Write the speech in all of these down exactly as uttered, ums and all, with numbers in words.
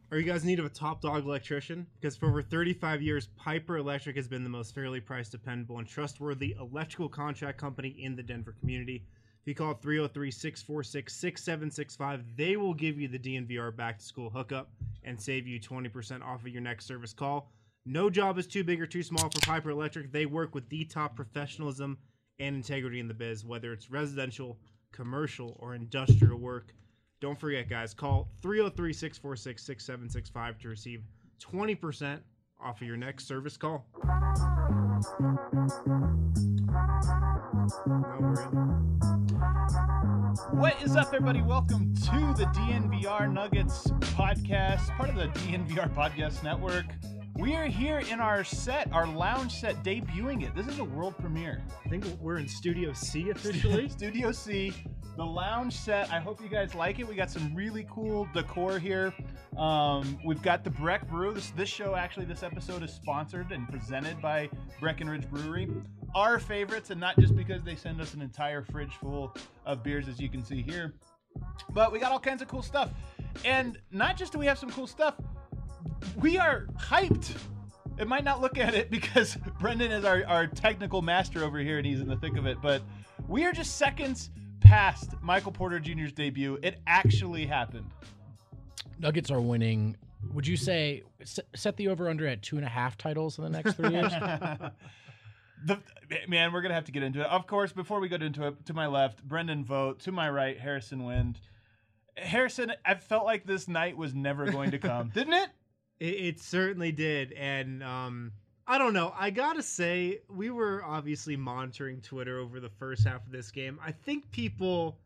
Are you guys in need of a top dog electrician? Because for over thirty-five years, Piper Electric has been the most fairly priced, dependable, and trustworthy electrical contract company in the Denver community. If you call three oh three, six four six, six seven six five, they will give you the D N V R back to school hookup and save you twenty percent off of your next service call. No job is too big or too small for Piper Electric. They work with the top professionalism and integrity in the biz, whether it's residential, commercial, or industrial work. Don't forget, guys, call three oh three, six four six, six seven six five to receive twenty percent off of your next service call. What is up, everybody? Welcome to the D N V R Nuggets podcast, part of the D N V R Podcast Network. We are here in our set, our lounge set, debuting it. This is a world premiere. I think we're in Studio C officially. Studio C, the lounge set. I hope you guys like it. We got some really cool decor here. Um, we've got the Breck Brew. This, this show, actually, this episode is sponsored and presented by Breckenridge Brewery. Our favorites, and not just because they send us an entire fridge full of beers, as you can see here, but we got all kinds of cool stuff. And not just do we have some cool stuff, we are hyped. It might not look at it because Brendan is our, our technical master over here and he's in the thick of it, but we are just seconds past Michael Porter Junior's debut. It actually happened. Nuggets are winning. Would you say set the over-under at two and a half titles in the next three years? The, man, we're going to have to get into it. Of course, before we get into it, to my left, Brendan Vogt. To my right, Harrison Wind. Harrison, I felt like this night was never going to come. Didn't it? It, it certainly did. And um, I don't know. I got to say, we were obviously monitoring Twitter over the first half of this game. I think people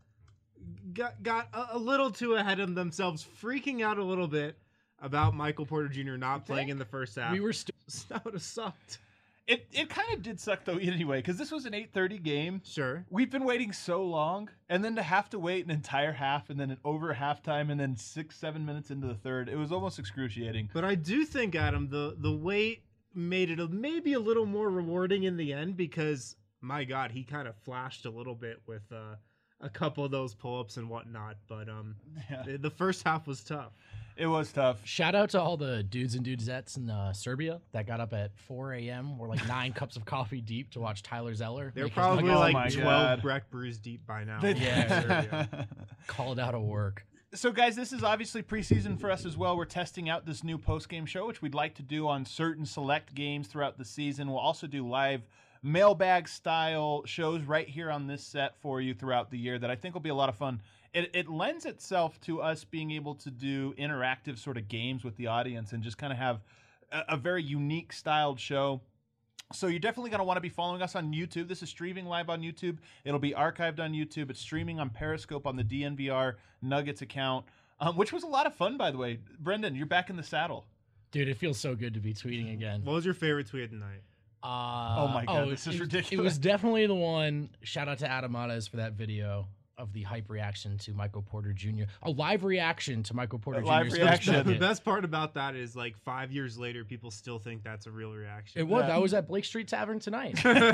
got, got a, a little too ahead of themselves, freaking out a little bit about Michael Porter Junior not playing in the first half. We were st- That would have sucked. It it kind of did suck, though, anyway, because this was an eight thirty game. Sure. We've been waiting so long, and then to have to wait an entire half, and then an over halftime, and then six, seven minutes into the third, it was almost excruciating. But I do think, Adam, the, the wait made it a, maybe a little more rewarding in the end because, my God, he kind of flashed a little bit with uh, a couple of those pull-ups and whatnot. But um, Yeah. the, the first half was tough. It was tough. Shout out to all the dudes and dudesettes in uh, Serbia that got up at four a.m. We're like nine cups of coffee deep to watch Tyler Zeller. They're make his probably Nuggets Oh my like God. twelve Breck brews deep by now. They- Yeah. called out of work. So, guys, this is obviously preseason for us as well. We're testing out this new post-game show, which we'd like to do on certain select games throughout the season. We'll also do live mailbag-style shows right here on this set for you throughout the year that I think will be a lot of fun. It, it lends itself to us being able to do interactive sort of games with the audience and just kind of have a, a very unique styled show. So you're definitely going to want to be following us on YouTube. This is streaming live on YouTube. It'll be archived on YouTube. It's streaming on Periscope on the D N V R Nuggets account, um, which was a lot of fun, by the way. Brendan, you're back in the saddle. Dude, it feels so good to be tweeting again. What was your favorite tweet tonight? Uh, Oh my God, oh, this is it, ridiculous. It was definitely the one. Shout out to Adam Matas for that video of the hype reaction to Michael Porter Junior A live reaction to Michael Porter A live Junior's reaction. first The bucket. best part about that is like five years later, people still think that's a real reaction. It was. Yeah. I was at Blake Street Tavern tonight.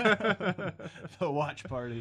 The watch party.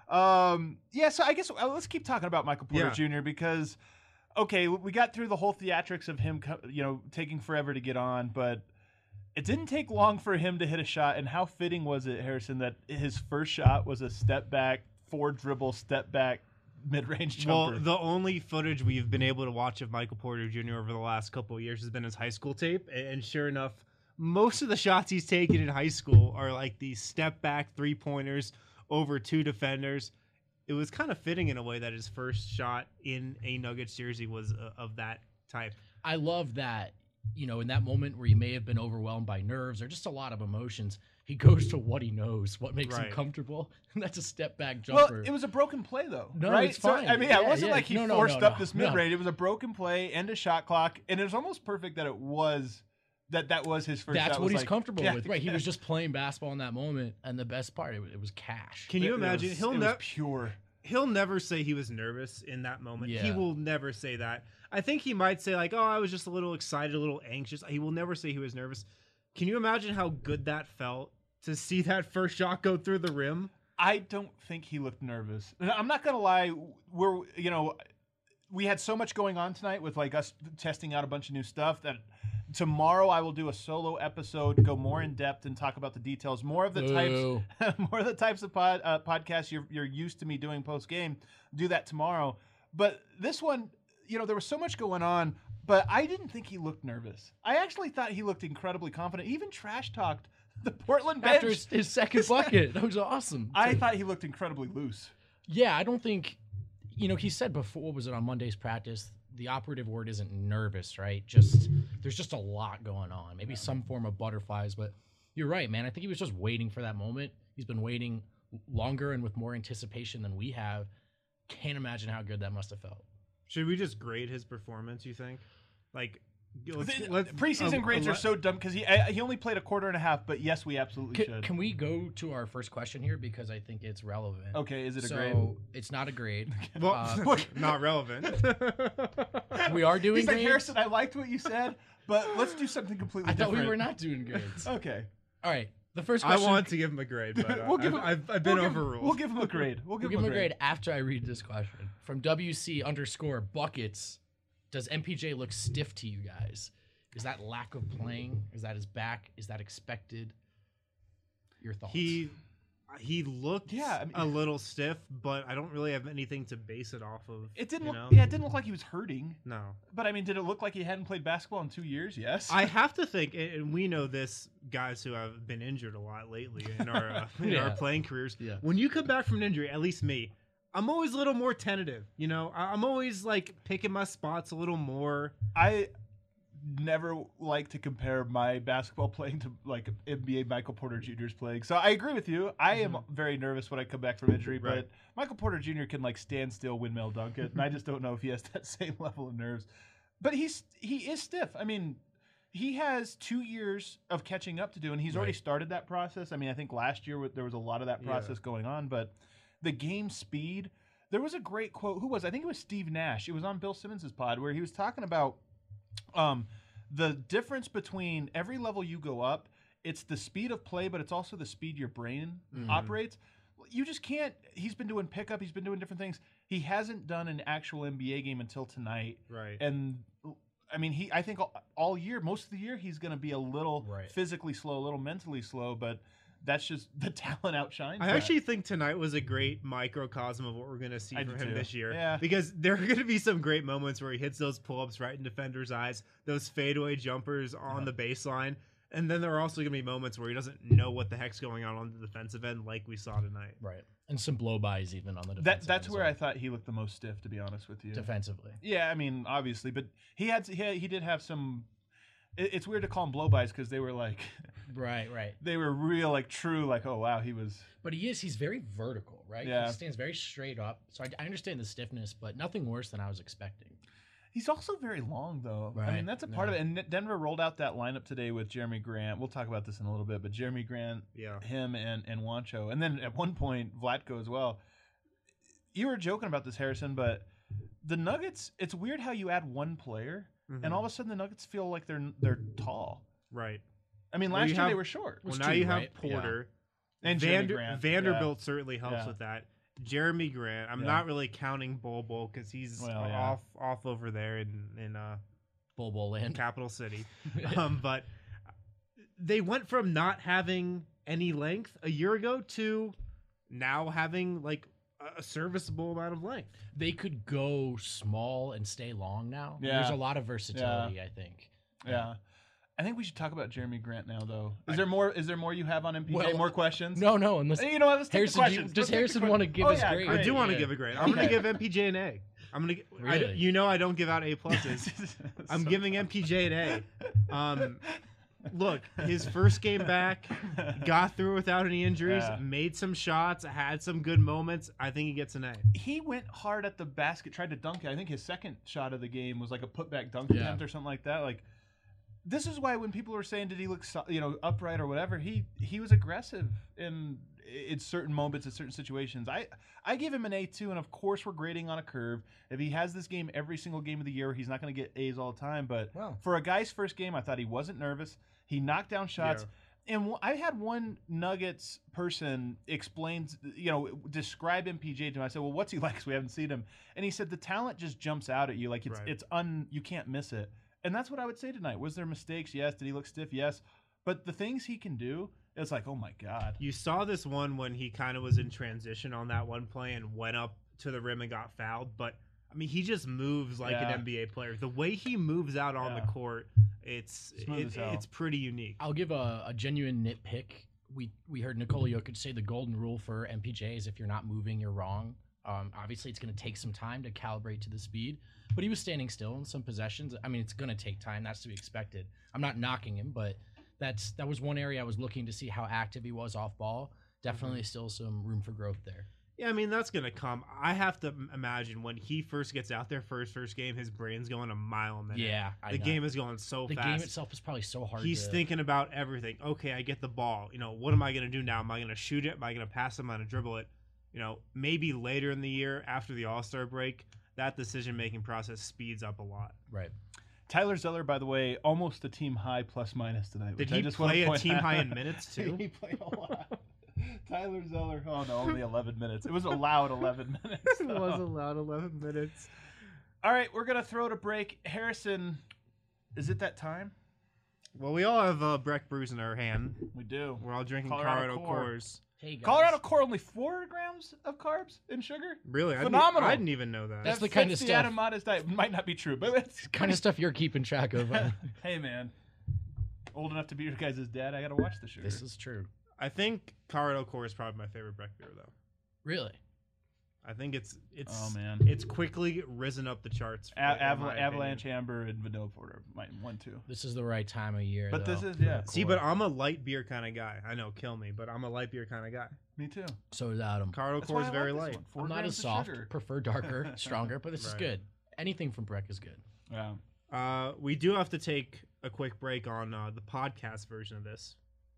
Um, yeah, so I guess uh, let's keep talking about Michael Porter Yeah. Junior because, okay, we got through the whole theatrics of him, co- you know, taking forever to get on, but it didn't take long for him to hit a shot. And how fitting was it, Harrison, that his first shot was a step back, four dribble, step back, mid-range Well, jumper? the only footage we've been able to watch of Michael Porter Junior over the last couple of years has been his high school tape. And sure enough, most of the shots he's taken in high school are like these step back three pointers over two defenders. It was kind of fitting in a way that his first shot in a Nuggets jersey was uh, of that type. I love that, you know, in that moment where he may have been overwhelmed by nerves or just a lot of emotions, he goes to what he knows, what makes Right. him comfortable. And that's a step back Well, jumper. it was a broken play, though. No, right? it's So, fine. I mean, yeah, it Yeah, wasn't yeah. like he No, no, forced no, up no, this no. mid-range. It was a broken play, end of shot clock, and it was almost perfect that it was that that was his first That's shot. what was he's like- comfortable yeah, with. Right. He yeah. was just playing basketball in that moment. And the best part, it, was- it was cash. Can you It- it imagine? was- he'll it was never pure. he'll never say he was nervous in that moment. He Yeah. will never say that. I think he might say like, "Oh, I was just a little excited, a little anxious." He will never say he was nervous. Can you imagine how good that felt to see that first shot go through the rim? I don't think he looked nervous. I'm not gonna lie. We're you know, we had so much going on tonight with like us testing out a bunch of new stuff that tomorrow I will do a solo episode, go more in depth and talk about the details, more of the Boo. types, more of the types of pod, uh, podcasts you're you're used to me doing post game. Do that tomorrow. But this one, you know, there was so much going on, but I didn't think he looked nervous. I actually thought he looked incredibly confident. He even trash talked the Portland bench After his, his second bucket. That was awesome. I thought he looked incredibly loose. Yeah, I don't think, you know, he said before, what was it, on Monday's practice, the operative word isn't nervous, right? Just, there's just a lot going on. Maybe some form of butterflies, but you're right, man. I think he was just waiting for that moment. He's been waiting longer and with more anticipation than we have. Can't imagine how good that must have felt. Should we just grade his performance, you think? Like, let's, The- let's, preseason uh, grades uh, are so dumb because he I, he only played a quarter and a half. But yes, we absolutely Can, should. can we go to our first question here because I think it's relevant? Okay, is it a so grade? it's not a grade. Well, Uh, not relevant. We are doing He's like, grades. Harrison, I liked what you said, but let's do something completely I thought different. we were not doing grades. Okay. All right. The first I question. want to give him a grade, but uh, We'll give I've, him- I've, I've been we'll give- overruled. We'll give him a grade. We'll We'll give, give him a grade after I read this question. From W C underscore buckets, does M P J look stiff to you guys? Is that lack of playing? Is that his back? Is that expected? Your thoughts? He he looked Yeah, I mean- a little stiff, but I don't really have anything to base it off of. It didn't you look. know? Yeah, it didn't look like he was hurting. No. But I mean, did it look like he hadn't played basketball in two years? Yes. I have to think, and we know this, guys who have been injured a lot lately in our uh, in our Yeah. playing careers. Yeah. When you come back from an injury, at least me, I'm always a little more tentative. You know, I- I'm always like picking my spots a little more. I never like to compare my basketball playing to like N B A Michael Porter Junior's playing. So I agree with you. I am very nervous when I come back from injury, Right. but Michael Porter Junior can like stand still, windmill dunk it, and I just don't know if he has that same level of nerves. But he's he is stiff. I mean, he has two years of catching up to do, and he's already Right. started that process. I mean, I think last year there was a lot of that Yeah. process going on, but the game speed. There was a great quote. Who was? I think it was Steve Nash. It was on Bill Simmons' pod where he was talking about um, the difference between every level you go up. It's the speed of play, but it's also the speed your brain Mhm. operates. You just can't. He's been doing pickup. He's been doing different things. He hasn't done an actual N B A game until tonight. Right. And I mean, he. I think all, all year, most of the year, he's going to be a little Right. physically slow, a little mentally slow, but. That's just the talent outshines. I that. actually think tonight was a great microcosm of what we're going to see I from do him too. this year. Yeah. Because there are going to be some great moments where he hits those pull-ups right in defenders' eyes, those fadeaway jumpers on Yeah. the baseline, and then there are also going to be moments where he doesn't know what the heck's going on on the defensive end, like we saw tonight. right, and some blow-bys even on the defensive that. That's end as where well. I thought he looked the most stiff, to be honest with you. defensively. Yeah, I mean, obviously, but he had he, had, he did have some. It, it's weird to call them blow-bys because they were like, Right, right. they were real, like true, like oh wow, he was. But he is, he's very vertical, right? Yeah. He stands very straight up. So I, I understand the stiffness, but nothing worse than I was expecting. He's also very long, though. I Right, mean, that's a part yeah. of it. And Denver rolled out that lineup today with Jeremy Grant. We'll talk about this in a little bit, but Jeremy Grant, Yeah. him, and and Wancho, and then at one point Vlatko as well. You were joking about this, Harrison, but the Nuggets. It's weird how you add one player, Mhm. and all of a sudden the Nuggets feel like they're they're tall. Right. I mean, Well, last you year they have- were short. Well, Was now two, you have right? Yeah. Porter. And Jeremy Vander- Grant, Vanderbilt yeah. certainly helps Yeah. with that. Jeremy Grant. I'm Yeah. not really counting Bol Bol because he's Well, yeah. off off over there in in uh, Bull Bull land. Capital City. um, but they went from not having any length a year ago to now having like a- a serviceable amount of length. They could go small and stay long now. Yeah. There's a lot of versatility, I think. Yeah. I think we should talk about Jeremy Grant now, though. Is there more? Is there more you have on M P J? Well, more questions? No, no, unless You know what? Let's take Harrison, the do you- questions. does Let's take the Harrison que- wanna give oh, his yeah, grade? I great. do want to yeah. give a grade. I'm going Okay. to give M P J an A. I'm gonna. G- I d- Really? you know I don't give out A pluses. I'm So- giving M P J an A. Um, look, his first game back, got through without any injuries, Yeah. made some shots, had some good moments. I think he gets an A. He went hard at the basket, tried to dunk it. I think his second shot of the game was like a putback dunk Yeah. attempt or something like that. Like, this is why when people were saying, "Did he look, so- you know, upright or whatever?" He he was aggressive in in certain moments, in certain situations. I I give him an A too, and of course we're grading on a curve. If he has this game every single game of the year, he's not going to get A's all the time. But Wow. for a guy's first game, I thought he wasn't nervous. He knocked down shots. And w- I had one Nuggets person explains, you know, describe M P J to me. I said, well, what's he like? Because we haven't seen him. And he said the talent just jumps out at you. Like, it's Right. it's un you can't miss it. And that's what I would say tonight. Was there mistakes? Yes. Did he look stiff? Yes. But the things he can do, it's like, oh, my God. You saw this one when he kind of was in transition on that one play and went up to the rim and got fouled. But, I mean, he just moves like Yeah. an N B A player. The way he moves out on Yeah. the court, it's Smooth it, as hell. it's pretty unique. I'll give a, a genuine nitpick. We we heard Nikola Jokic say the golden rule for M P J is if you're not moving, you're wrong. Um, obviously, it's going to take some time to calibrate to the speed, but he was standing still in some possessions. I mean, it's going to take time. That's to be expected. I'm not knocking him, but that's that was one area I was looking to see how active he was off ball. Definitely still some room for growth there. Yeah, I mean, that's going to come. I have to m- imagine when he first gets out there for his first game, his brain's going a mile a minute. Yeah, I The know. game is going so the fast. game itself is probably so hard. He's to, thinking about everything. Okay, I get the ball. You know, what am I going to do now? Am I going to shoot it? Am I going to pass it? Am I going to dribble it? You know, maybe later in the year after the All-Star break, that decision-making process speeds up a lot. right. Tyler Zeller, by the way, almost a team high plus minus tonight. Did which he I just wanna play a point team out. high in minutes, too? He played a lot. Tyler Zeller, oh no, only eleven minutes. It was allowed eleven minutes. It though. was allowed eleven minutes. All right, we're gonna throw to break. Harrison, is it that time? Well, we all have uh, Breck Brews in our hand. We do. We're all drinking Colorado Colorado, Core. Coors. Hey guys. Colorado Core only four grams of carbs and sugar. Really? I didn't- Phenomenal. I didn't even know that. That's the That kind fits of the stuff- Adam Madas diet. Might not be true, but it's kind of stuff you're keeping track of. uh, Hey man, old enough to be your guys' dad. I gotta watch the sugar. this is true. I think Colorado Core is probably my favorite Breck beer, though. Really? I think it's it's Oh man, it's quickly risen up the charts. A- in my Aval- opinion. Avalanche Amber and Vanilla Porter might one two. This is the right time of year. But though, this is for yeah. a See, core. but I'm a light beer kind of guy. I know, kill me, but I'm a light beer kind of guy. Me too. so is Adam. Colorado That's Core why is I very like this light. one. Four I'm not grams as of soft. sugar. Prefer darker, stronger, but this is Right. good. Anything from Breck is good. Yeah. Uh, we do have to take a quick break on uh, the podcast version of this,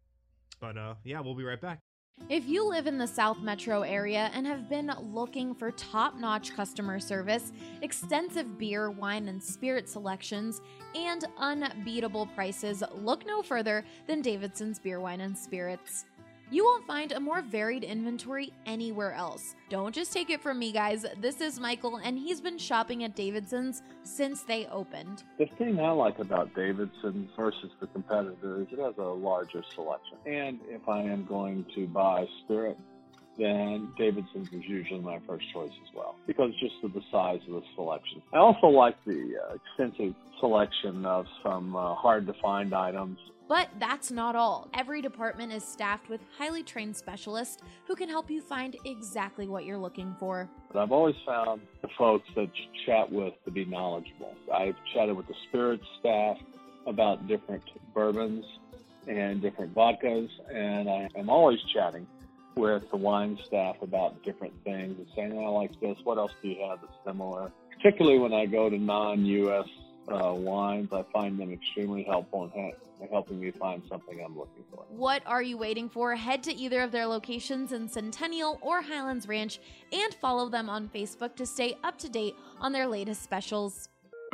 but uh, yeah, we'll be right back. If you live in the South Metro area and have been looking for top-notch customer service, extensive beer, wine, and spirit selections, and unbeatable prices, look no further than Davidson's Beer, Wine, and Spirits. You won't find a more varied inventory anywhere else. Don't just take it from me, guys. This is Michael, and he's been shopping at Davidson's since they opened. The thing I like about Davidson versus the competitor is it has a larger selection. And if I am going to buy spirit, then Davidson's is usually my first choice as well, because just of the size of the selection. I also like the uh, extensive selection of some uh, hard-to-find items. But that's not all. Every department is staffed with highly trained specialists who can help you find exactly what you're looking for. But I've always found the folks that you chat with to be knowledgeable. I've chatted with the spirits staff about different bourbons and different vodkas, and I am always chatting with the wine staff about different things and saying, oh, I like this, what else do you have that's similar? Particularly when I go to non-U S uh, wines, I find them extremely helpful in ha- helping me find something I'm looking for. What are you waiting for? Head to either of their locations in Centennial or Highlands Ranch and follow them on Facebook to stay up to date on their latest specials.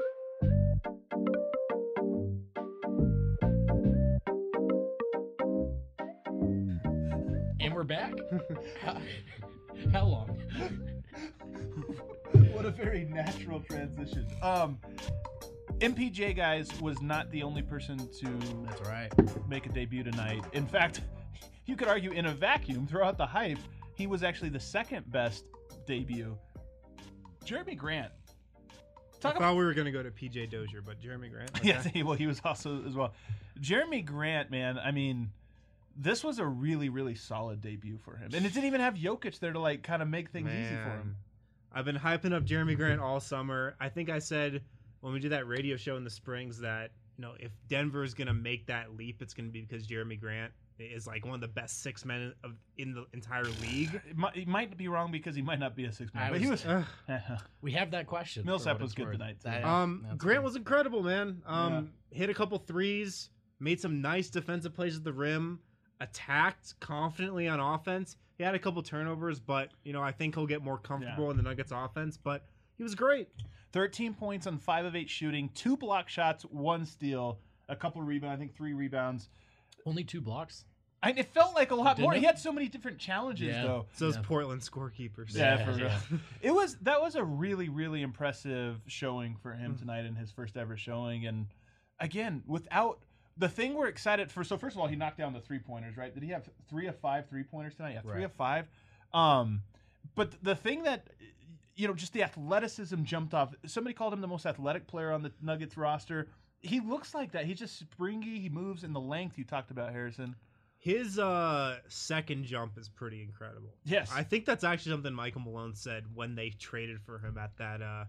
And we're back. how, how long? What a very natural transition. Um, M P J, guys, was not the only person to That's right. make a debut tonight. In fact, you could argue in a vacuum, throughout the hype, he was actually the second best debut. Jeremy Grant. I Talk thought about we were gonna go to P J Dozier, but Jeremy Grant. okay. yes, he- well, he was also as well. Jeremy Grant, man, I mean, this was a really, really solid debut for him, and it didn't even have Jokic there to like kind of make things easy for him. Man. I've been hyping up Jeremy Grant all summer. I think I said when we did that radio show in the Springs that, you know, if Denver is gonna make that leap, it's gonna be because Jeremy Grant is like one of the best six men of in the entire league. It might, he might be wrong because he might not be a six man, I but he was. Ugh. We have that question. for Millsap what was it's good worth. tonight, too. That- Um, that's Grant good. was incredible, man. Um, hit a couple threes, made some nice defensive plays at the rim, attacked confidently on offense. He had a couple turnovers, but you know I think he'll get more comfortable Yeah. in the Nuggets offense. But he was great. thirteen points on five of eight shooting, two block shots, one steal, a couple rebounds, I think three rebounds. Only two blocks. I, it felt like a lot Didn't more. it? He had so many different challenges, Yeah. though. It's those Yeah. Portland scorekeepers. Yeah, Yeah, for real. yeah. It was that was a really, really impressive showing for him tonight in his first ever showing. And again, without the thing we're excited for. So first of all, he knocked down the three pointers, right? Did he have three of five three pointers tonight? Yeah, three Right. of five. Um, but the thing that you know, just the athleticism jumped off. Somebody called him the most athletic player on the Nuggets roster. He looks like that. He's just springy. He moves in the length you talked about, Harrison. His uh, second jump is pretty incredible. Yes. I think that's actually something Michael Malone said when they traded for him at that uh,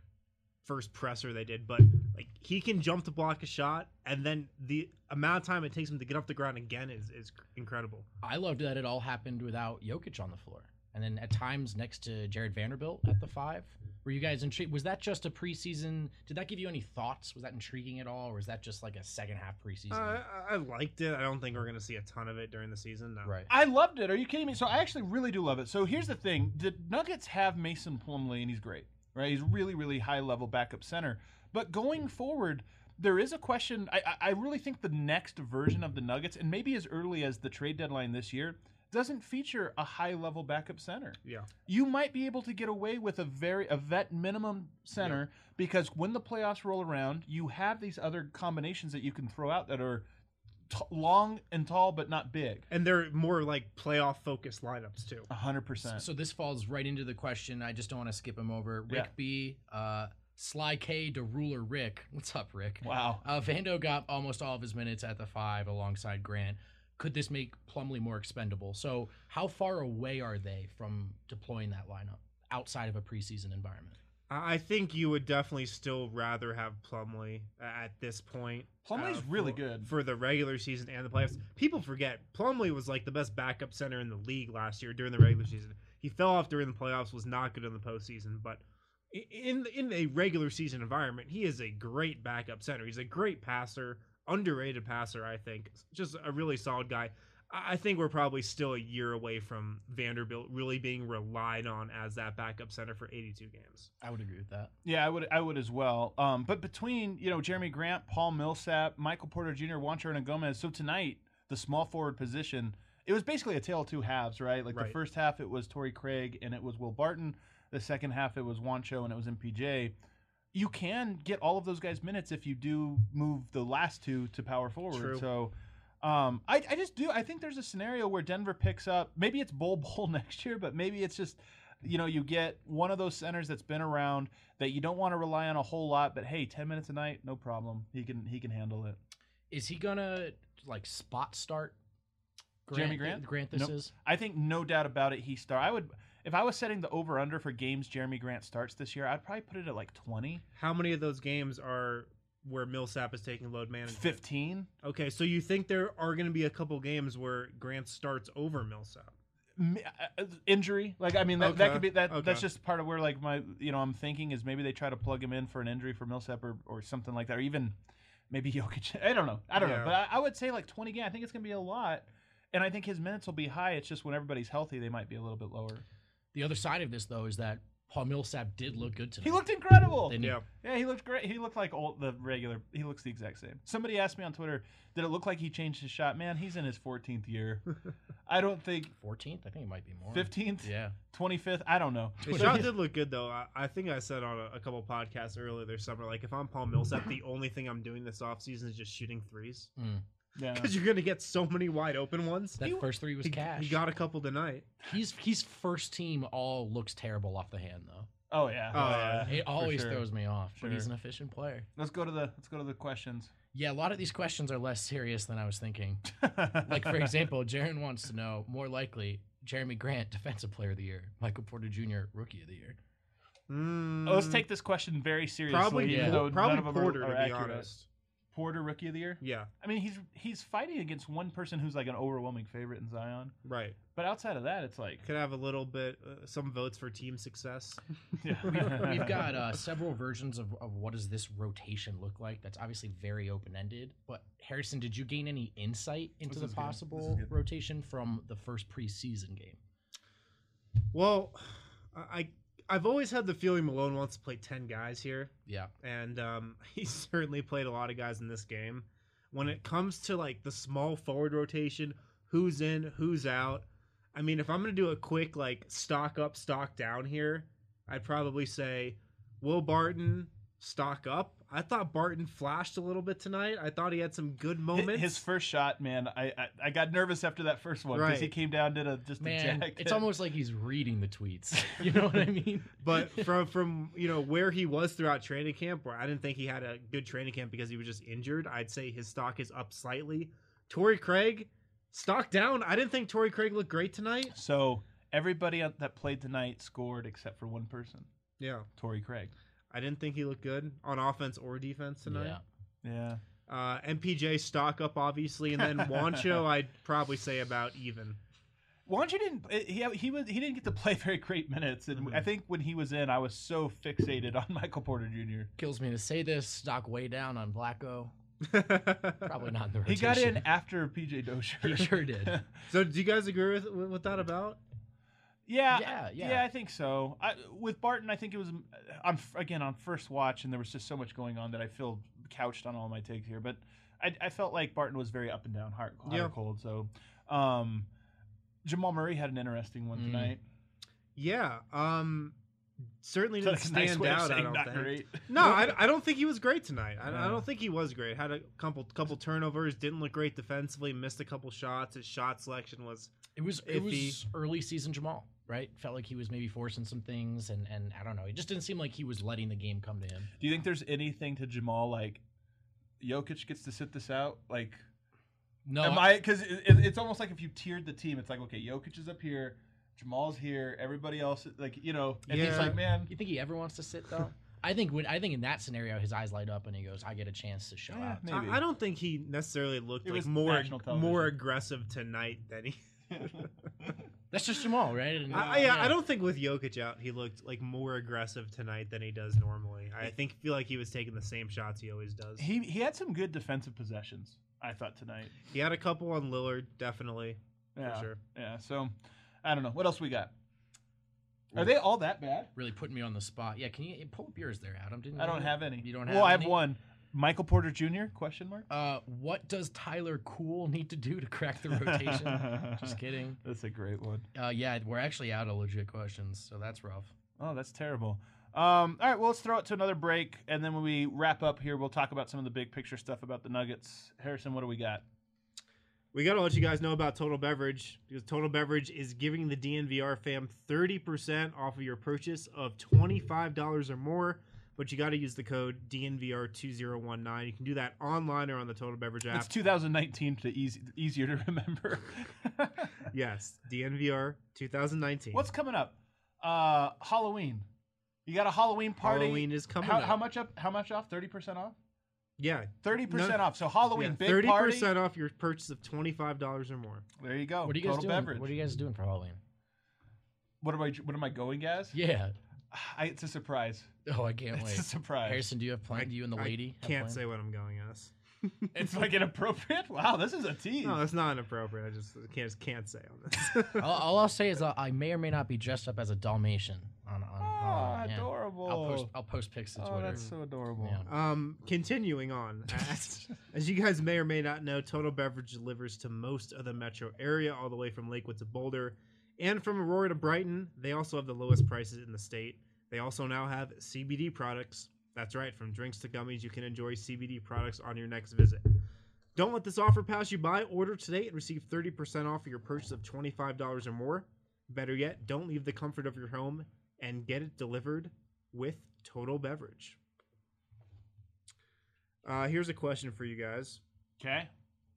first presser they did. But like he can jump to block a shot, and then the amount of time it takes him to get off the ground again is, is incredible. I loved that it all happened without Jokic on the floor. And then at times next to Jared Vanderbilt at the five. Were you guys intrigued? Was that just a preseason? Did that give you any thoughts? Was that intriguing at all? Or was that just like a second half preseason? Uh, I, I liked it. I don't think we're going to see a ton of it during the season. No. right. I loved it. Are you kidding me? So I actually really do love it. So here's the thing: the Nuggets have Mason Plumlee, and he's great, right? He's really, really high level backup center. But going forward, there is a question. I, I really think the next version of the Nuggets, and maybe as early as the trade deadline this year, doesn't feature a high level backup center. Yeah. You might be able to get away with a very a vet minimum center because when the playoffs roll around, you have these other combinations that you can throw out that are t- long and tall but not big. And they're more like playoff focused lineups too. A hundred percent. So this falls right into the question. I just don't want to skip him over. Rick Yeah. B, uh, Sly K to Ruler Rick. What's up, Rick? Wow. Uh, Vando got almost all of his minutes at the five alongside Grant. Could this make Plumlee more expendable? So how far away are they from deploying that lineup outside of a preseason environment? I I think you would definitely still rather have Plumlee at this point. Plumlee's uh, really for- good. for the regular season and the playoffs. People forget Plumlee was like the best backup center in the league last year during the regular season. He fell off during the playoffs, was not good in the postseason, but i- in in a regular season environment, he is a great backup center. He's a great passer, underrated passer, I think. Just a really solid guy. I I think we're probably still a year away from Vanderbilt really being relied on as that backup center for eighty-two games. I would agree with that. Yeah, I would I would as well. Um, but between, you know, Jeremy Grant, Paul Millsap, Michael Porter Junior, Juancho Hernangomez, so tonight, the small forward position, it was basically a tale of two halves, right? Like Right. the first half it was Torrey Craig and it was Will Barton. The second half it was Juancho and it was M P J. You can get all of those guys minutes if you do move the last two to power forward. True. So um, I, I just do. I think there's a scenario where Denver picks up. Maybe it's Bull Bowl next year, but maybe it's just, you know, you get one of those centers that's been around that you don't want to rely on a whole lot. But hey, ten minutes a night, no problem. He can he can handle it. Is he gonna like spot start? Jeremy Grant? Grant, this Nope. is. I think no doubt about it. He start. I would if I was setting the over under for games Jeremy Grant starts this year. I'd probably put it at like twenty, How many of those games are where Millsap is taking load management? fifteen. Okay, so you think there are going to be a couple games where Grant starts over Millsap? M- uh, injury, like I mean that, that Okay, could be that. okay. That's just part of where like my you know I'm thinking is maybe they try to plug him in for an injury for Millsap or, or something like that, or even maybe Jokic. I don't know. I don't know, Yeah. but I, I would say like twenty games. I think it's gonna be a lot, and I think his minutes will be high. It's just when everybody's healthy, they might be a little bit lower. The other side of this, though, is that Paul Millsap did look good tonight. He looked incredible. Didn't he? Yeah. Yeah, he looked great. He looked like all the regular. He looks the exact same. Somebody asked me on Twitter, did it look like he changed his shot? Man, he's in his fourteenth year. I don't think fourteenth? I think it might be more. fifteenth, Yeah. twenty-fifth. I don't know. The shot did look good, though. I, I think I said on a, a couple podcasts earlier this summer, like, if I'm Paul Millsap, the only thing I'm doing this offseason is just shooting threes. Mm. Yeah. Because you're going to get so many wide open ones. That He- first three was he, cash. He got a couple tonight. He's he's first team all looks terrible off the hand though. Oh yeah. Oh, yeah. It For always sure. throws me off, but he's Sure. an efficient player. Let's go to the let's go to the questions. Yeah, a lot of these questions are less serious than I was thinking. Like for example, Jaron wants to know more likely Jeremy Grant Defensive Player of the Year, Michael Porter Junior Rookie of the Year. Mm, Let's take this question very seriously. probably, even yeah. though probably none of them Porter, are, are to be accurate. honest. Porter Rookie of the Year. Yeah, I mean, he's he's fighting against one person who's like an overwhelming favorite in Zion. right. But outside of that, it's like Could have a little bit, uh, some votes for team success. yeah. We've got uh, several versions of, of what does this rotation look like. That's obviously very open-ended. But Harrison, did you gain any insight into This the is good. This is possible good. rotation from the first preseason game? Well, I I've always had the feeling Malone wants to play ten guys here, Yeah. and um, he certainly played a lot of guys in this game. when it comes to like the small forward rotation, who's in, who's out. I mean, if I'm going to do a quick like stock up, stock down here, I'd probably say Will Barton, stock up. I thought Barton flashed a little bit tonight. I thought he had some good moments. His first shot, man, I I, I got nervous after that first one because Right. he came down did a just Man, a jack. it's almost like he's reading the tweets. You know what I mean? But from from you know where he was throughout training camp, where I didn't think he had a good training camp because he was just injured, I'd say his stock is up slightly. Torrey Craig, stock down. I didn't think Torrey Craig looked great tonight. So everybody that played tonight scored except for one person, Yeah, Torrey Craig. I didn't think he looked good on offense or defense tonight. Yeah. Yeah. Uh, M P J stock up obviously, and then Wancho I'd probably say about even. Wancho didn't he he was he didn't get to play very great minutes, and Mhm. I think when he was in, I was so fixated on Michael Porter Junior Kills me to say this. Stock way down on Blacko. Probably not in the He rotation. got in after P J Dozier. He sure did. So do you guys agree with with that about? Yeah, Yeah, yeah. yeah, I think so. I, with Barton, I think it was on again on first watch, and there was just so much going on that I feel couched on all my takes here. But I, I felt like Barton was very up and down, hot, hot Yeah. or cold. So um, Jamal Murray had an interesting one Mm. tonight. Yeah, um, certainly didn't That's a nice stand way of out. I saying don't not think. great. No, I, I don't think he was great tonight. I, Yeah. I don't think he was great. Had a couple couple turnovers, didn't look great defensively, missed a couple shots. His shot selection was It was it Iffy. was early season Jamal, right? Felt like he was maybe forcing some things, and and I don't know. It just didn't seem like he was letting the game come to him. Do you think there's anything to Jamal like Jokic gets to sit this out? Like, No, am I? Because it, it, it's almost like if you tiered the team, it's like okay, Jokic is up here, Jamal's here, everybody else like you know, and he's Yeah. like, man, You think he ever wants to sit though? I think when I think in that scenario, his eyes light up and he goes, "I get a chance to show Yeah, out." maybe. I, I don't think he necessarily looked It like was more national television. more aggressive tonight than he. That's just Jamal, right? And, I, yeah, I don't think with Jokic out, he looked like more aggressive tonight than he does normally. I think feel like he was taking the same shots he always does. he he had some good defensive possessions. I thought tonight. He had a couple on Lillard, definitely Yeah, for sure. yeah. So I don't know what else we got. Are they all that bad? Really putting me on the spot. Yeah, can you pull up yours there, Adam? Didn't I don't you? have any. You don't have Well, I have any? one. Michael Porter Junior Question mark. Uh, what does Tyler Cool need to do to crack the rotation? Just kidding. That's a great one. Uh, yeah, we're actually out of legit questions, so that's rough. Oh, that's terrible. Um, all right, well, let's throw it to another break, and then when we wrap up here, we'll talk about some of the big picture stuff about the Nuggets. Harrison, what do we got? We got to let you guys know about Total Beverage because Total Beverage is giving the D N V R fam thirty percent off of your purchase of twenty-five dollars or more, but you got to use the code D N V R two zero one nine. You can do that online or on the Total Beverage app. It's two thousand nineteen to easy, easier to remember. Yes, D N V R twenty nineteen. What's coming up? Uh, Halloween. You got a Halloween party. Halloween is coming how, up. How much up? How much off? Thirty percent off. Yeah, Thirty percent No- off. So Halloween yeah, big thirty party. percent off your purchase of twenty-five dollars or more. There you go. What are you guys Total doing? Beverage. What are you guys doing for Halloween? What am I? What am I going as? Yeah. I, it's a surprise. Oh, I can't It's wait. a surprise. Harrison, do you have plans? You and the I lady have can't plans? say what I'm going as. It's like inappropriate. Wow, this is a tease. No, that's not inappropriate. I just can't just can't say on this. all, all I'll say is uh, I may or may not be dressed up as a Dalmatian on on. Oh, Halloween, yeah. adorable. I'll post I'll post pics to oh, Twitter. that's so adorable. Yeah. Um, continuing on, as, as you guys may or may not know, Total Beverage delivers to most of the metro area, all the way from Lakewood to Boulder, and from Aurora to Brighton. They also have the lowest prices in the state. They also now have C B D products. That's right, from drinks to gummies, you can enjoy C B D products on your next visit. Don't let this offer pass you by. Order today and receive thirty percent off of your purchase of twenty-five dollars or more. Better yet, don't leave the comfort of your home and get it delivered with Total Beverage. Uh, here's a question for you guys. Okay.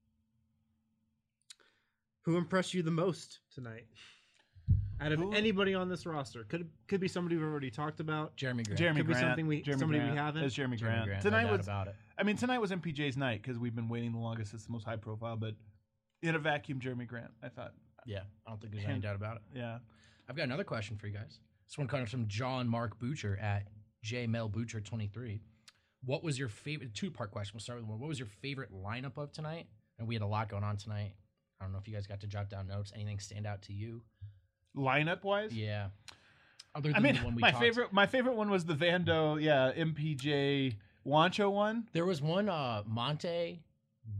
Who impressed you the most tonight? Out of Who- anybody on this roster. Could could be somebody we've already talked about. Jeremy Grant. Jeremy Could be Grant. something we- Jeremy somebody we Grant. haven't. It's Jeremy, Jeremy Grant. Grant. Tonight no doubt was. about it. I mean, tonight was M P J's night because we've been waiting the longest. It's the most high profile, but in a vacuum, Jeremy Grant. I thought. Yeah, I don't think there's any Him. doubt about it. Yeah. I've got another question for you guys. This one comes from John Mark Butcher at J Mel Butcher twenty-three. What was your favorite two part question? We'll start with one. What was your favorite lineup of tonight? And we had a lot going on tonight. I don't know if you guys got to jot down notes. Anything stand out to you? Lineup wise. Yeah. Other I than mean, the one we my talked- favorite. My favorite one was the Vando. Yeah, M P J Wancho one. There was one uh Monte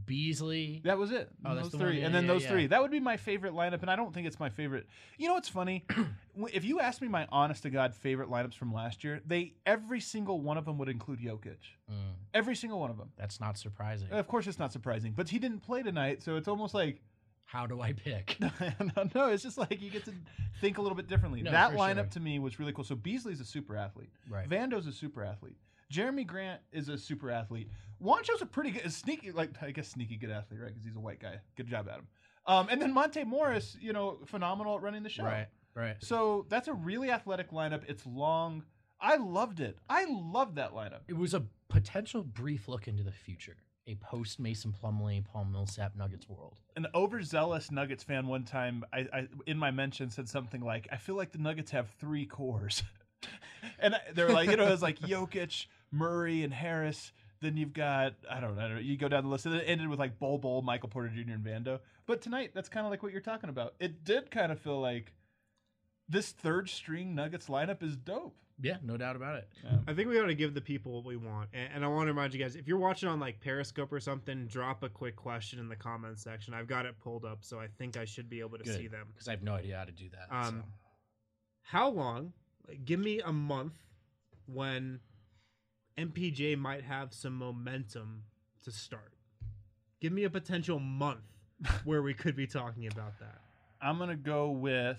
Beasley. That was it. Oh, that's those the three, one, yeah, and then yeah, those yeah. three. That would be my favorite lineup, and I don't think it's my favorite. You know what's funny? If you ask me my honest to God favorite lineups from last year, they every single one of them would include Jokic. Mm, Every single one of them. that's not surprising. Of course, it's not surprising, but he didn't play tonight, so it's almost like How do I pick? no, no, it's just like you get to think a little bit differently. No, that for lineup sure. to me was really cool. So Beasley's a super athlete. Right. Vando's a super athlete. Jeremy Grant is a super athlete. Wancho's a pretty good, a sneaky, like I guess sneaky good athlete, right? Because he's a white guy. Good job, Adam. Um, and then Monte Morris, you know, phenomenal at running the show. Right. Right. So that's a really athletic lineup. It's long. I loved it. I loved that lineup. It was a potential brief look into the future. A post Mason Plumlee, Paul Millsap Nuggets world. An overzealous Nuggets fan one time, I, I in my mention said something like, "I feel like the Nuggets have three cores," and I, they were like, you know, it was like Jokic, Murray, and Harris. Then you've got I don't know, you go down the list, and it ended with like Bol Bol, Michael Porter Junior, and Vando. But tonight, that's kind of like what you're talking about. It did kind of feel like this third string Nuggets lineup is dope. Yeah, no doubt about it. Yeah. I think we ought to give the people what we want. And, and I want to remind you guys, if you're watching on like Periscope or something, drop a quick question in the comments section. I've got it pulled up, so I think I should be able to Good. see them. Because I have no idea how to do that. Um, so. How long? Like, give me a month when M P J might have some momentum to start. Give me a potential month where we could be talking about that. I'm gonna go with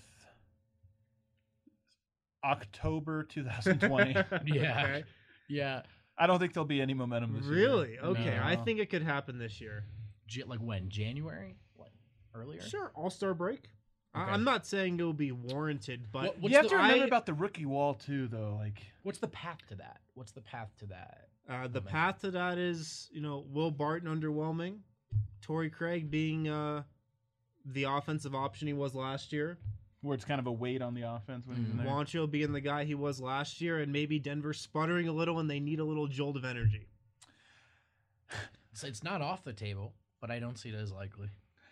October twenty twenty. Yeah. Okay. Yeah. I don't think there'll be any momentum this year. Really? Okay. No. I think it could happen this year. J- like when? January? What? Earlier? Sure. All Star break. I- Okay. I'm not saying it will be warranted, but What- what's You have the- to remember I- about the rookie wall too, though. Like, What's the path to that? What's the path to that? Uh, the Momentum. path to that is, you know, Will Barton underwhelming, Torrey Craig being uh, the offensive option he was last year, where it's kind of a weight on the offense when he's in there. Juancho being the guy he was last year, and maybe Denver sputtering a little and they need a little jolt of energy. So it's not off the table, but I don't see it as likely.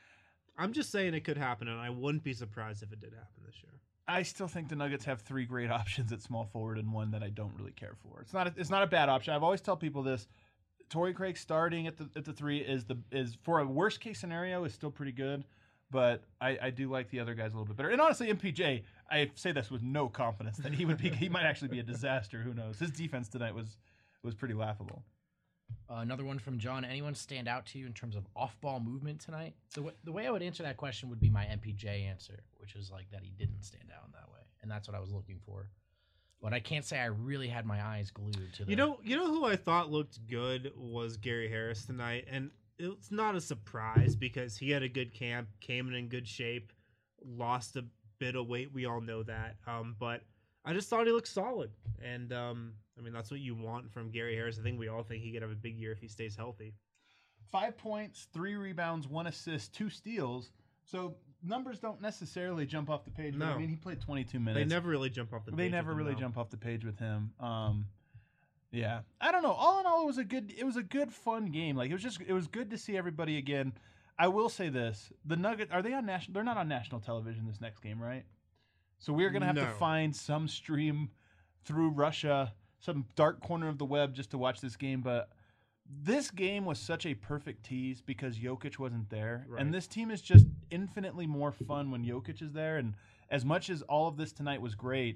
I'm just saying it could happen, and I wouldn't be surprised if it did happen this year. I still think the Nuggets have three great options at small forward and one that I don't really care for. It's not a, it's not a bad option. I've always tell people this. Torrey Craig starting at the at the three is the is for a worst case scenario is still pretty good, but I, I do like the other guys a little bit better. And honestly, M P J, I say this with no confidence that he would be he might actually be a disaster. Who knows? His defense tonight was was pretty laughable. Uh, another one from John. Anyone stand out to you in terms of off-ball movement tonight? The, w- the way I would answer that question would be my M P J answer, which is like that he didn't stand out in that way, and that's what I was looking for. But I can't say I really had my eyes glued to the. You know, you know who I thought looked good was Gary Harris tonight, and it's not a surprise because he had a good camp, came in in good shape, lost a bit of weight. We all know that, um, but I just thought he looked solid, and um, I mean that's what you want from Gary Harris. I think we all think he could have a big year if he stays healthy. Five points, three rebounds, one assist, two steals. So numbers don't necessarily jump off the page. But No. I mean, he played twenty-two minutes. They never really jump off the. They page never with him, really though. jump off the page with him. Um, yeah, I don't know. All in all, it was a good, it was a good, fun game. Like it was just, it was good to see everybody again. I will say this: the Nuggets are they on national? They're not on national television this next game, right? So we're gonna have to No. find some stream through Russia, some dark corner of the web, just to watch this game. But this game was such a perfect tease because Jokic wasn't there, Right. and this team is just infinitely more fun when Jokic is there. And as much as all of this tonight was great,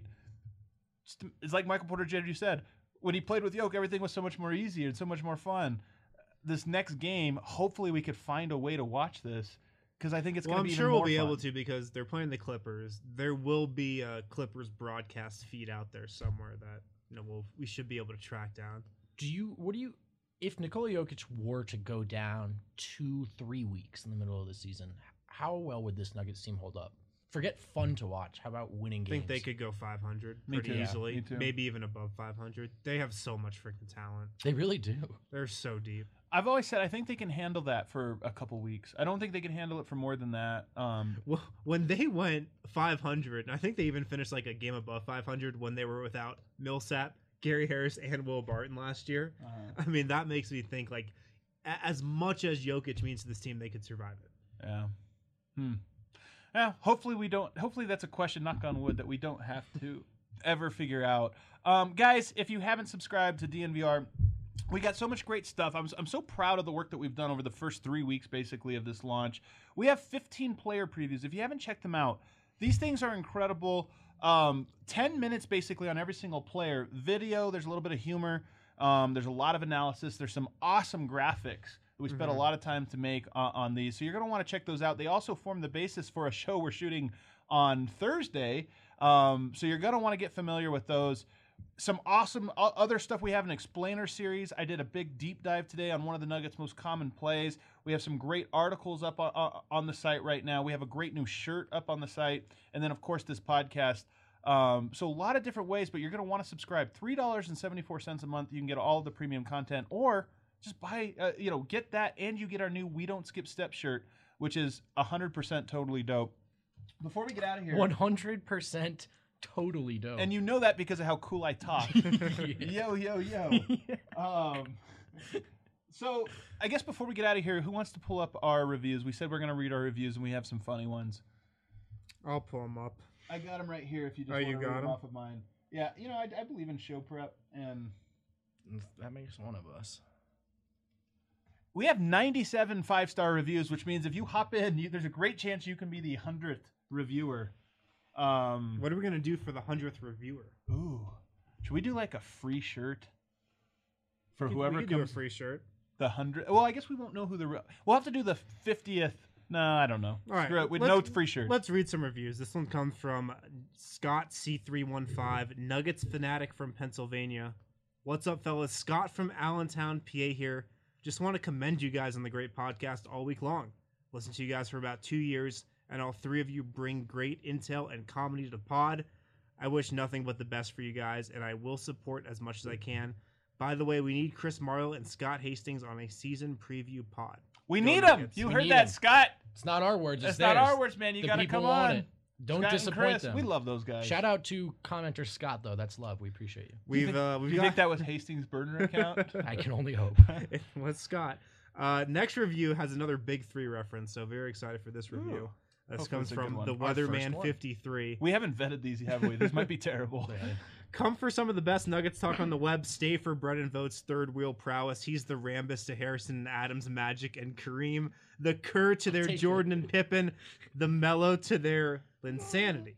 just- it's like Michael Porter Junior said, when he played with Jokic, everything was so much more easy and so much more fun. This next game, hopefully we could find a way to watch this because I think it's Well, going I'm to be sure even we'll more be fun. able to because they're playing the Clippers. There will be a Clippers broadcast feed out there somewhere that you know we'll, we should be able to track down. Do you? What do you? If Nikola Jokic were to go down two, three weeks in the middle of the season, how well would this Nuggets team hold up? Forget fun to watch. How about winning I games? think they could go five hundred Me pretty too. Yeah, easily, me too. maybe even above five hundred. They have so much freaking talent. They really do. They're so deep. I've always said I think they can handle that for a couple weeks. I don't think they can handle it for more than that. Um, Well, when they went five hundred, I think they even finished like a game above five hundred when they were without Millsap, Gary Harris, and Will Barton last year. uh, I mean, that makes me think like a- as much as Jokic means to this team, they could survive it. yeah. Hmm. Yeah. Hopefully we don't. Hopefully that's a question. Knock on wood that we don't have to ever figure out. Um, guys, if you haven't subscribed to D N V R, we got so much great stuff. I'm, I'm so proud of the work that we've done over the first three weeks, basically, of this launch. We have fifteen player previews. If you haven't checked them out, these things are incredible. Um, ten minutes, basically, on every single player. Video, there's a little bit of humor. Um, there's a lot of analysis. There's some awesome graphics that we spent mm-hmm. a lot of time to make uh, on these. So you're going to want to check those out. They also form the basis for a show we're shooting on Thursday. Um, so you're going to want to get familiar with those. Some awesome other stuff. We have an explainer series. I did a big deep dive today on one of the Nuggets' most common plays. We have some great articles up on, on the site right now. We have a great new shirt up on the site. And then, of course, this podcast. Um, so a lot of different ways, but you're going to want to subscribe. three dollars and seventy-four cents a month. You can get all of the premium content, or just buy, uh, you know, get that, and you get our new We Don't Skip Steps shirt, which is one hundred percent totally dope. Before we get out of here. one hundred percent totally dope. And you know that because of how cool I talk. Yo, yo, yo. um, so I guess before we get out of here, who wants to pull up our reviews? We said we're going to read our reviews, and we have some funny ones. I'll pull them up. I got them right here if you just oh, want you to got read them them off of mine. Yeah, you know, I, I believe in show prep, and that makes one of us. We have ninety-seven five-star reviews, which means if you hop in, you, there's a great chance you can be the hundredth reviewer. Um, what are we going to do for the hundredth reviewer? Ooh. Should we do like a free shirt? For we whoever we could comes. do a free shirt. The hundred. Well, I guess we won't know who the. Re- we'll have to do the fiftieth. No, I don't know. All right. Screw it. With let's, no free shirt. Let's read some reviews. This one comes from Scott C three one five, Nuggets fanatic from Pennsylvania. What's up, fellas? Scott from Allentown, P A here. Just want to commend you guys on the great podcast all week long. Listened to you guys for about two years, and all three of you bring great intel and comedy to the pod. I wish nothing but the best for you guys, and I will support as much as I can. By the way, we need Chris Marlowe and Scott Hastings on a season preview pod. We Go need Nuggets. them. You We heard need that, 'em. Scott. It's not our words. That's It's not theirs. our words, man. You The got to people come want on. it. Don't Scott and disappoint Chris, them. We love those guys. Shout out to commenter Scott, though. That's love. We appreciate you. Do you We've think, uh, do we've you got think that was Hastings' burner account? I can only hope. it was Scott. Uh, next review has another Big Three reference, so very excited for this review. Ooh. This Hopefully comes it's a good from one. the Our first Weatherman one. fifty-three. We haven't vetted these, have we? This might be terrible. Come for some of the best Nuggets talk on the web. Stay for Brennan Vogt's third wheel prowess. He's the Rambus to Harrison and Adams Magic and Kareem. The Kerr to their take Jordan and Pippen. The Mello to their Linsanity.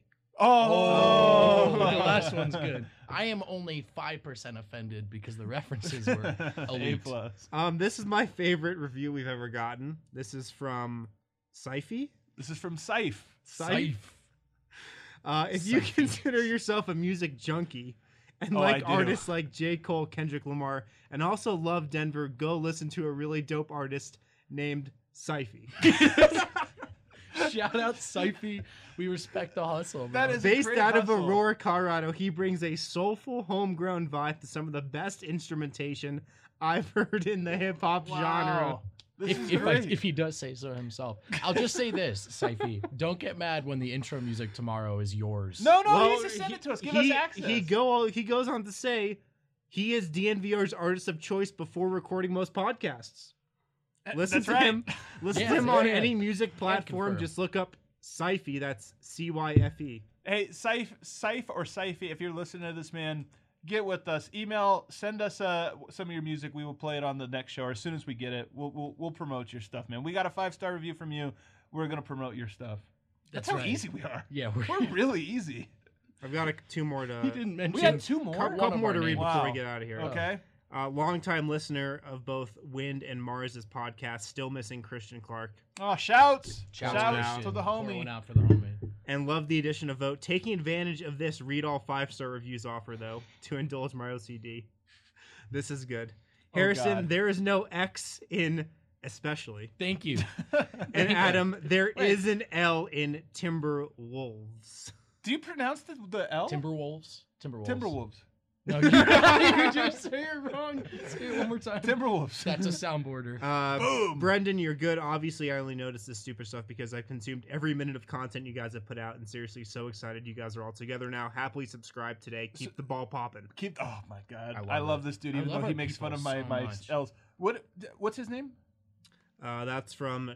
Oh, Oh, the last one's good. I am only five percent offended because the references were A elite. plus. Um, this is my favorite review we've ever gotten. This is from Syfy. This is from Saif. Syfe. Uh, if you Syfy. consider yourself a music junkie and Oh, like I do. artists like J. Cole, Kendrick Lamar, and also love Denver, go listen to a really dope artist named Syfy. Shout out Syfy. We respect the hustle. That bro. is a Based great out of hustle. Aurora, Colorado, he brings a soulful, homegrown vibe to some of the best instrumentation I've heard in the hip hop genre. Wow. This If, is if, I, great. if he does say so himself. I'll just say this, Syfy. Don't get mad when the intro music tomorrow is yours. no, no, Well, he needs to send he- it to us. Give he, us access. He go. He goes on to say he is D N V R's artist of choice before recording most podcasts. Uh, Listen That's to right. him. Listen Yeah, to him yeah, on yeah. any music platform. confirm. Just look up Syfy. That's C Y F E. Hey, Saif, Saif or Saify, if you're listening to this, man, get with us. Email, send us uh, some of your music. We will play it on the next show. Or as soon as we get it, we'll, we'll we'll promote your stuff, man. We got a five star review from you. We're gonna promote your stuff. That's, That's how right. easy we are. Yeah, we're, We're really easy. I've got a, two more to. he didn't mention. We had two more. couple, one couple of more our to read names. before we Wow. get out of here. Okay. Uh, longtime listener of both Wind and Mars's podcast, still missing Christian Clark, Oh, shouts! Shout Shouts, out to the Pour homie. one out for the homie. and love the addition of Vote. Taking advantage of this read all five star reviews offer, though, to indulge my O C D. This is good. Oh, Harrison, God. there is no X in especially. Thank you. And Adam, there Wait. is an L in Timberwolves. Do you pronounce the, the L? Timberwolves. Timberwolves. Timberwolves. No, you, you just say it wrong. Say it one more time. Timberwolves. That's a soundboarder. Uh, Boom. Brendan, you're good. Obviously, I only noticed this stupid stuff because I've consumed every minute of content you guys have put out, and seriously, so excited you guys are all together now. Happily subscribe today. Keep the ball popping. Keep. Oh my God. I love I love it. this dude, I even love though our he makes fun of people my so my much. L's. What? What's his name? Uh, that's from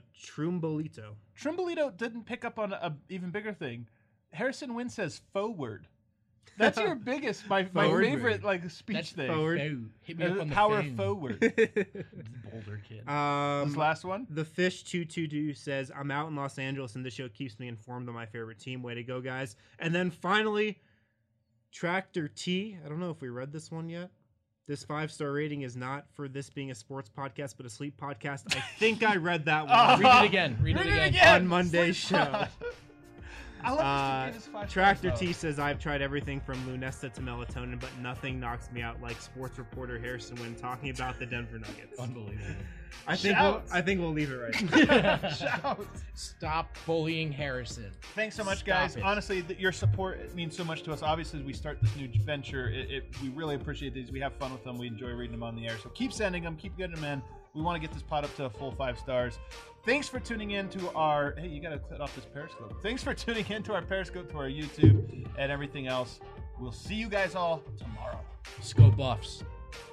Trumbolito. Trimbolito didn't pick up on a even bigger thing. Harrison Wynn says forward. That's your biggest, my, my Forward favorite like speech That's thing. forward. Faux. Hit me Uh, up on the power phone. forward. Boulder kid. Um, This last one. The Fish two two two says, I'm out in Los Angeles and this show keeps me informed on my favorite team. Way to go, guys. And then finally, Tractor T. I don't know if we read this one yet. This five-star rating is not for this being a sports podcast, but a sleep podcast. I think I read that one Read it again. Read, it again. on Monday's show. I love Uh, that you gave us five Tractor stars, T though. says, I've tried everything from Lunesta to melatonin, but nothing knocks me out like sports reporter Harrison Wynn talking about the Denver Nuggets. Unbelievable. I think we'll, Shouts. I think we'll leave it right. Shout. Stop bullying Harrison. Thanks so much, Stop guys. it. Honestly, th- your support it means so much to us. Obviously, as we start this new venture, it, it, we really appreciate these. We have fun with them. We enjoy reading them on the air. So keep sending them. Keep getting them in. We want to get this pod up to a full five stars. Thanks for tuning in to our. Hey, you got to cut off this Periscope. Thanks for tuning in to our Periscope, to our YouTube, and everything else. We'll see you guys all tomorrow. Let's go Buffs.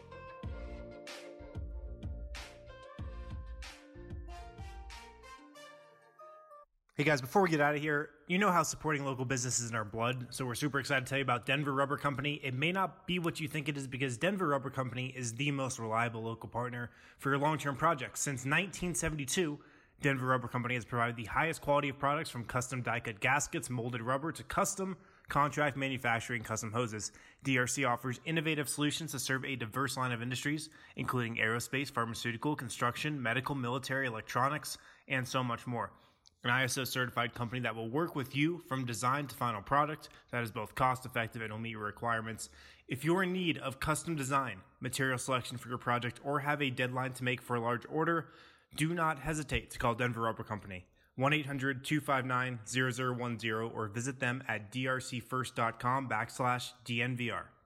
Hey guys, before we get out of here, you know how supporting local business is in our blood, so we're super excited to tell you about Denver Rubber Company. It may not be what you think it is because Denver Rubber Company is the most reliable local partner for your long-term projects. Since nineteen seventy-two, Denver Rubber Company has provided the highest quality of products from custom die-cut gaskets, molded rubber, to custom contract manufacturing custom hoses. D R C offers innovative solutions to serve a diverse line of industries, including aerospace, pharmaceutical, construction, medical, military, electronics, and so much more. An I S O certified company that will work with you from design to final product that is both cost effective and will meet your requirements. If you're in need of custom design, material selection for your project, or have a deadline to make for a large order, do not hesitate to call Denver Rubber Company. one eight hundred two five nine zero zero one zero or visit them at drcfirst.com backslash DNVR.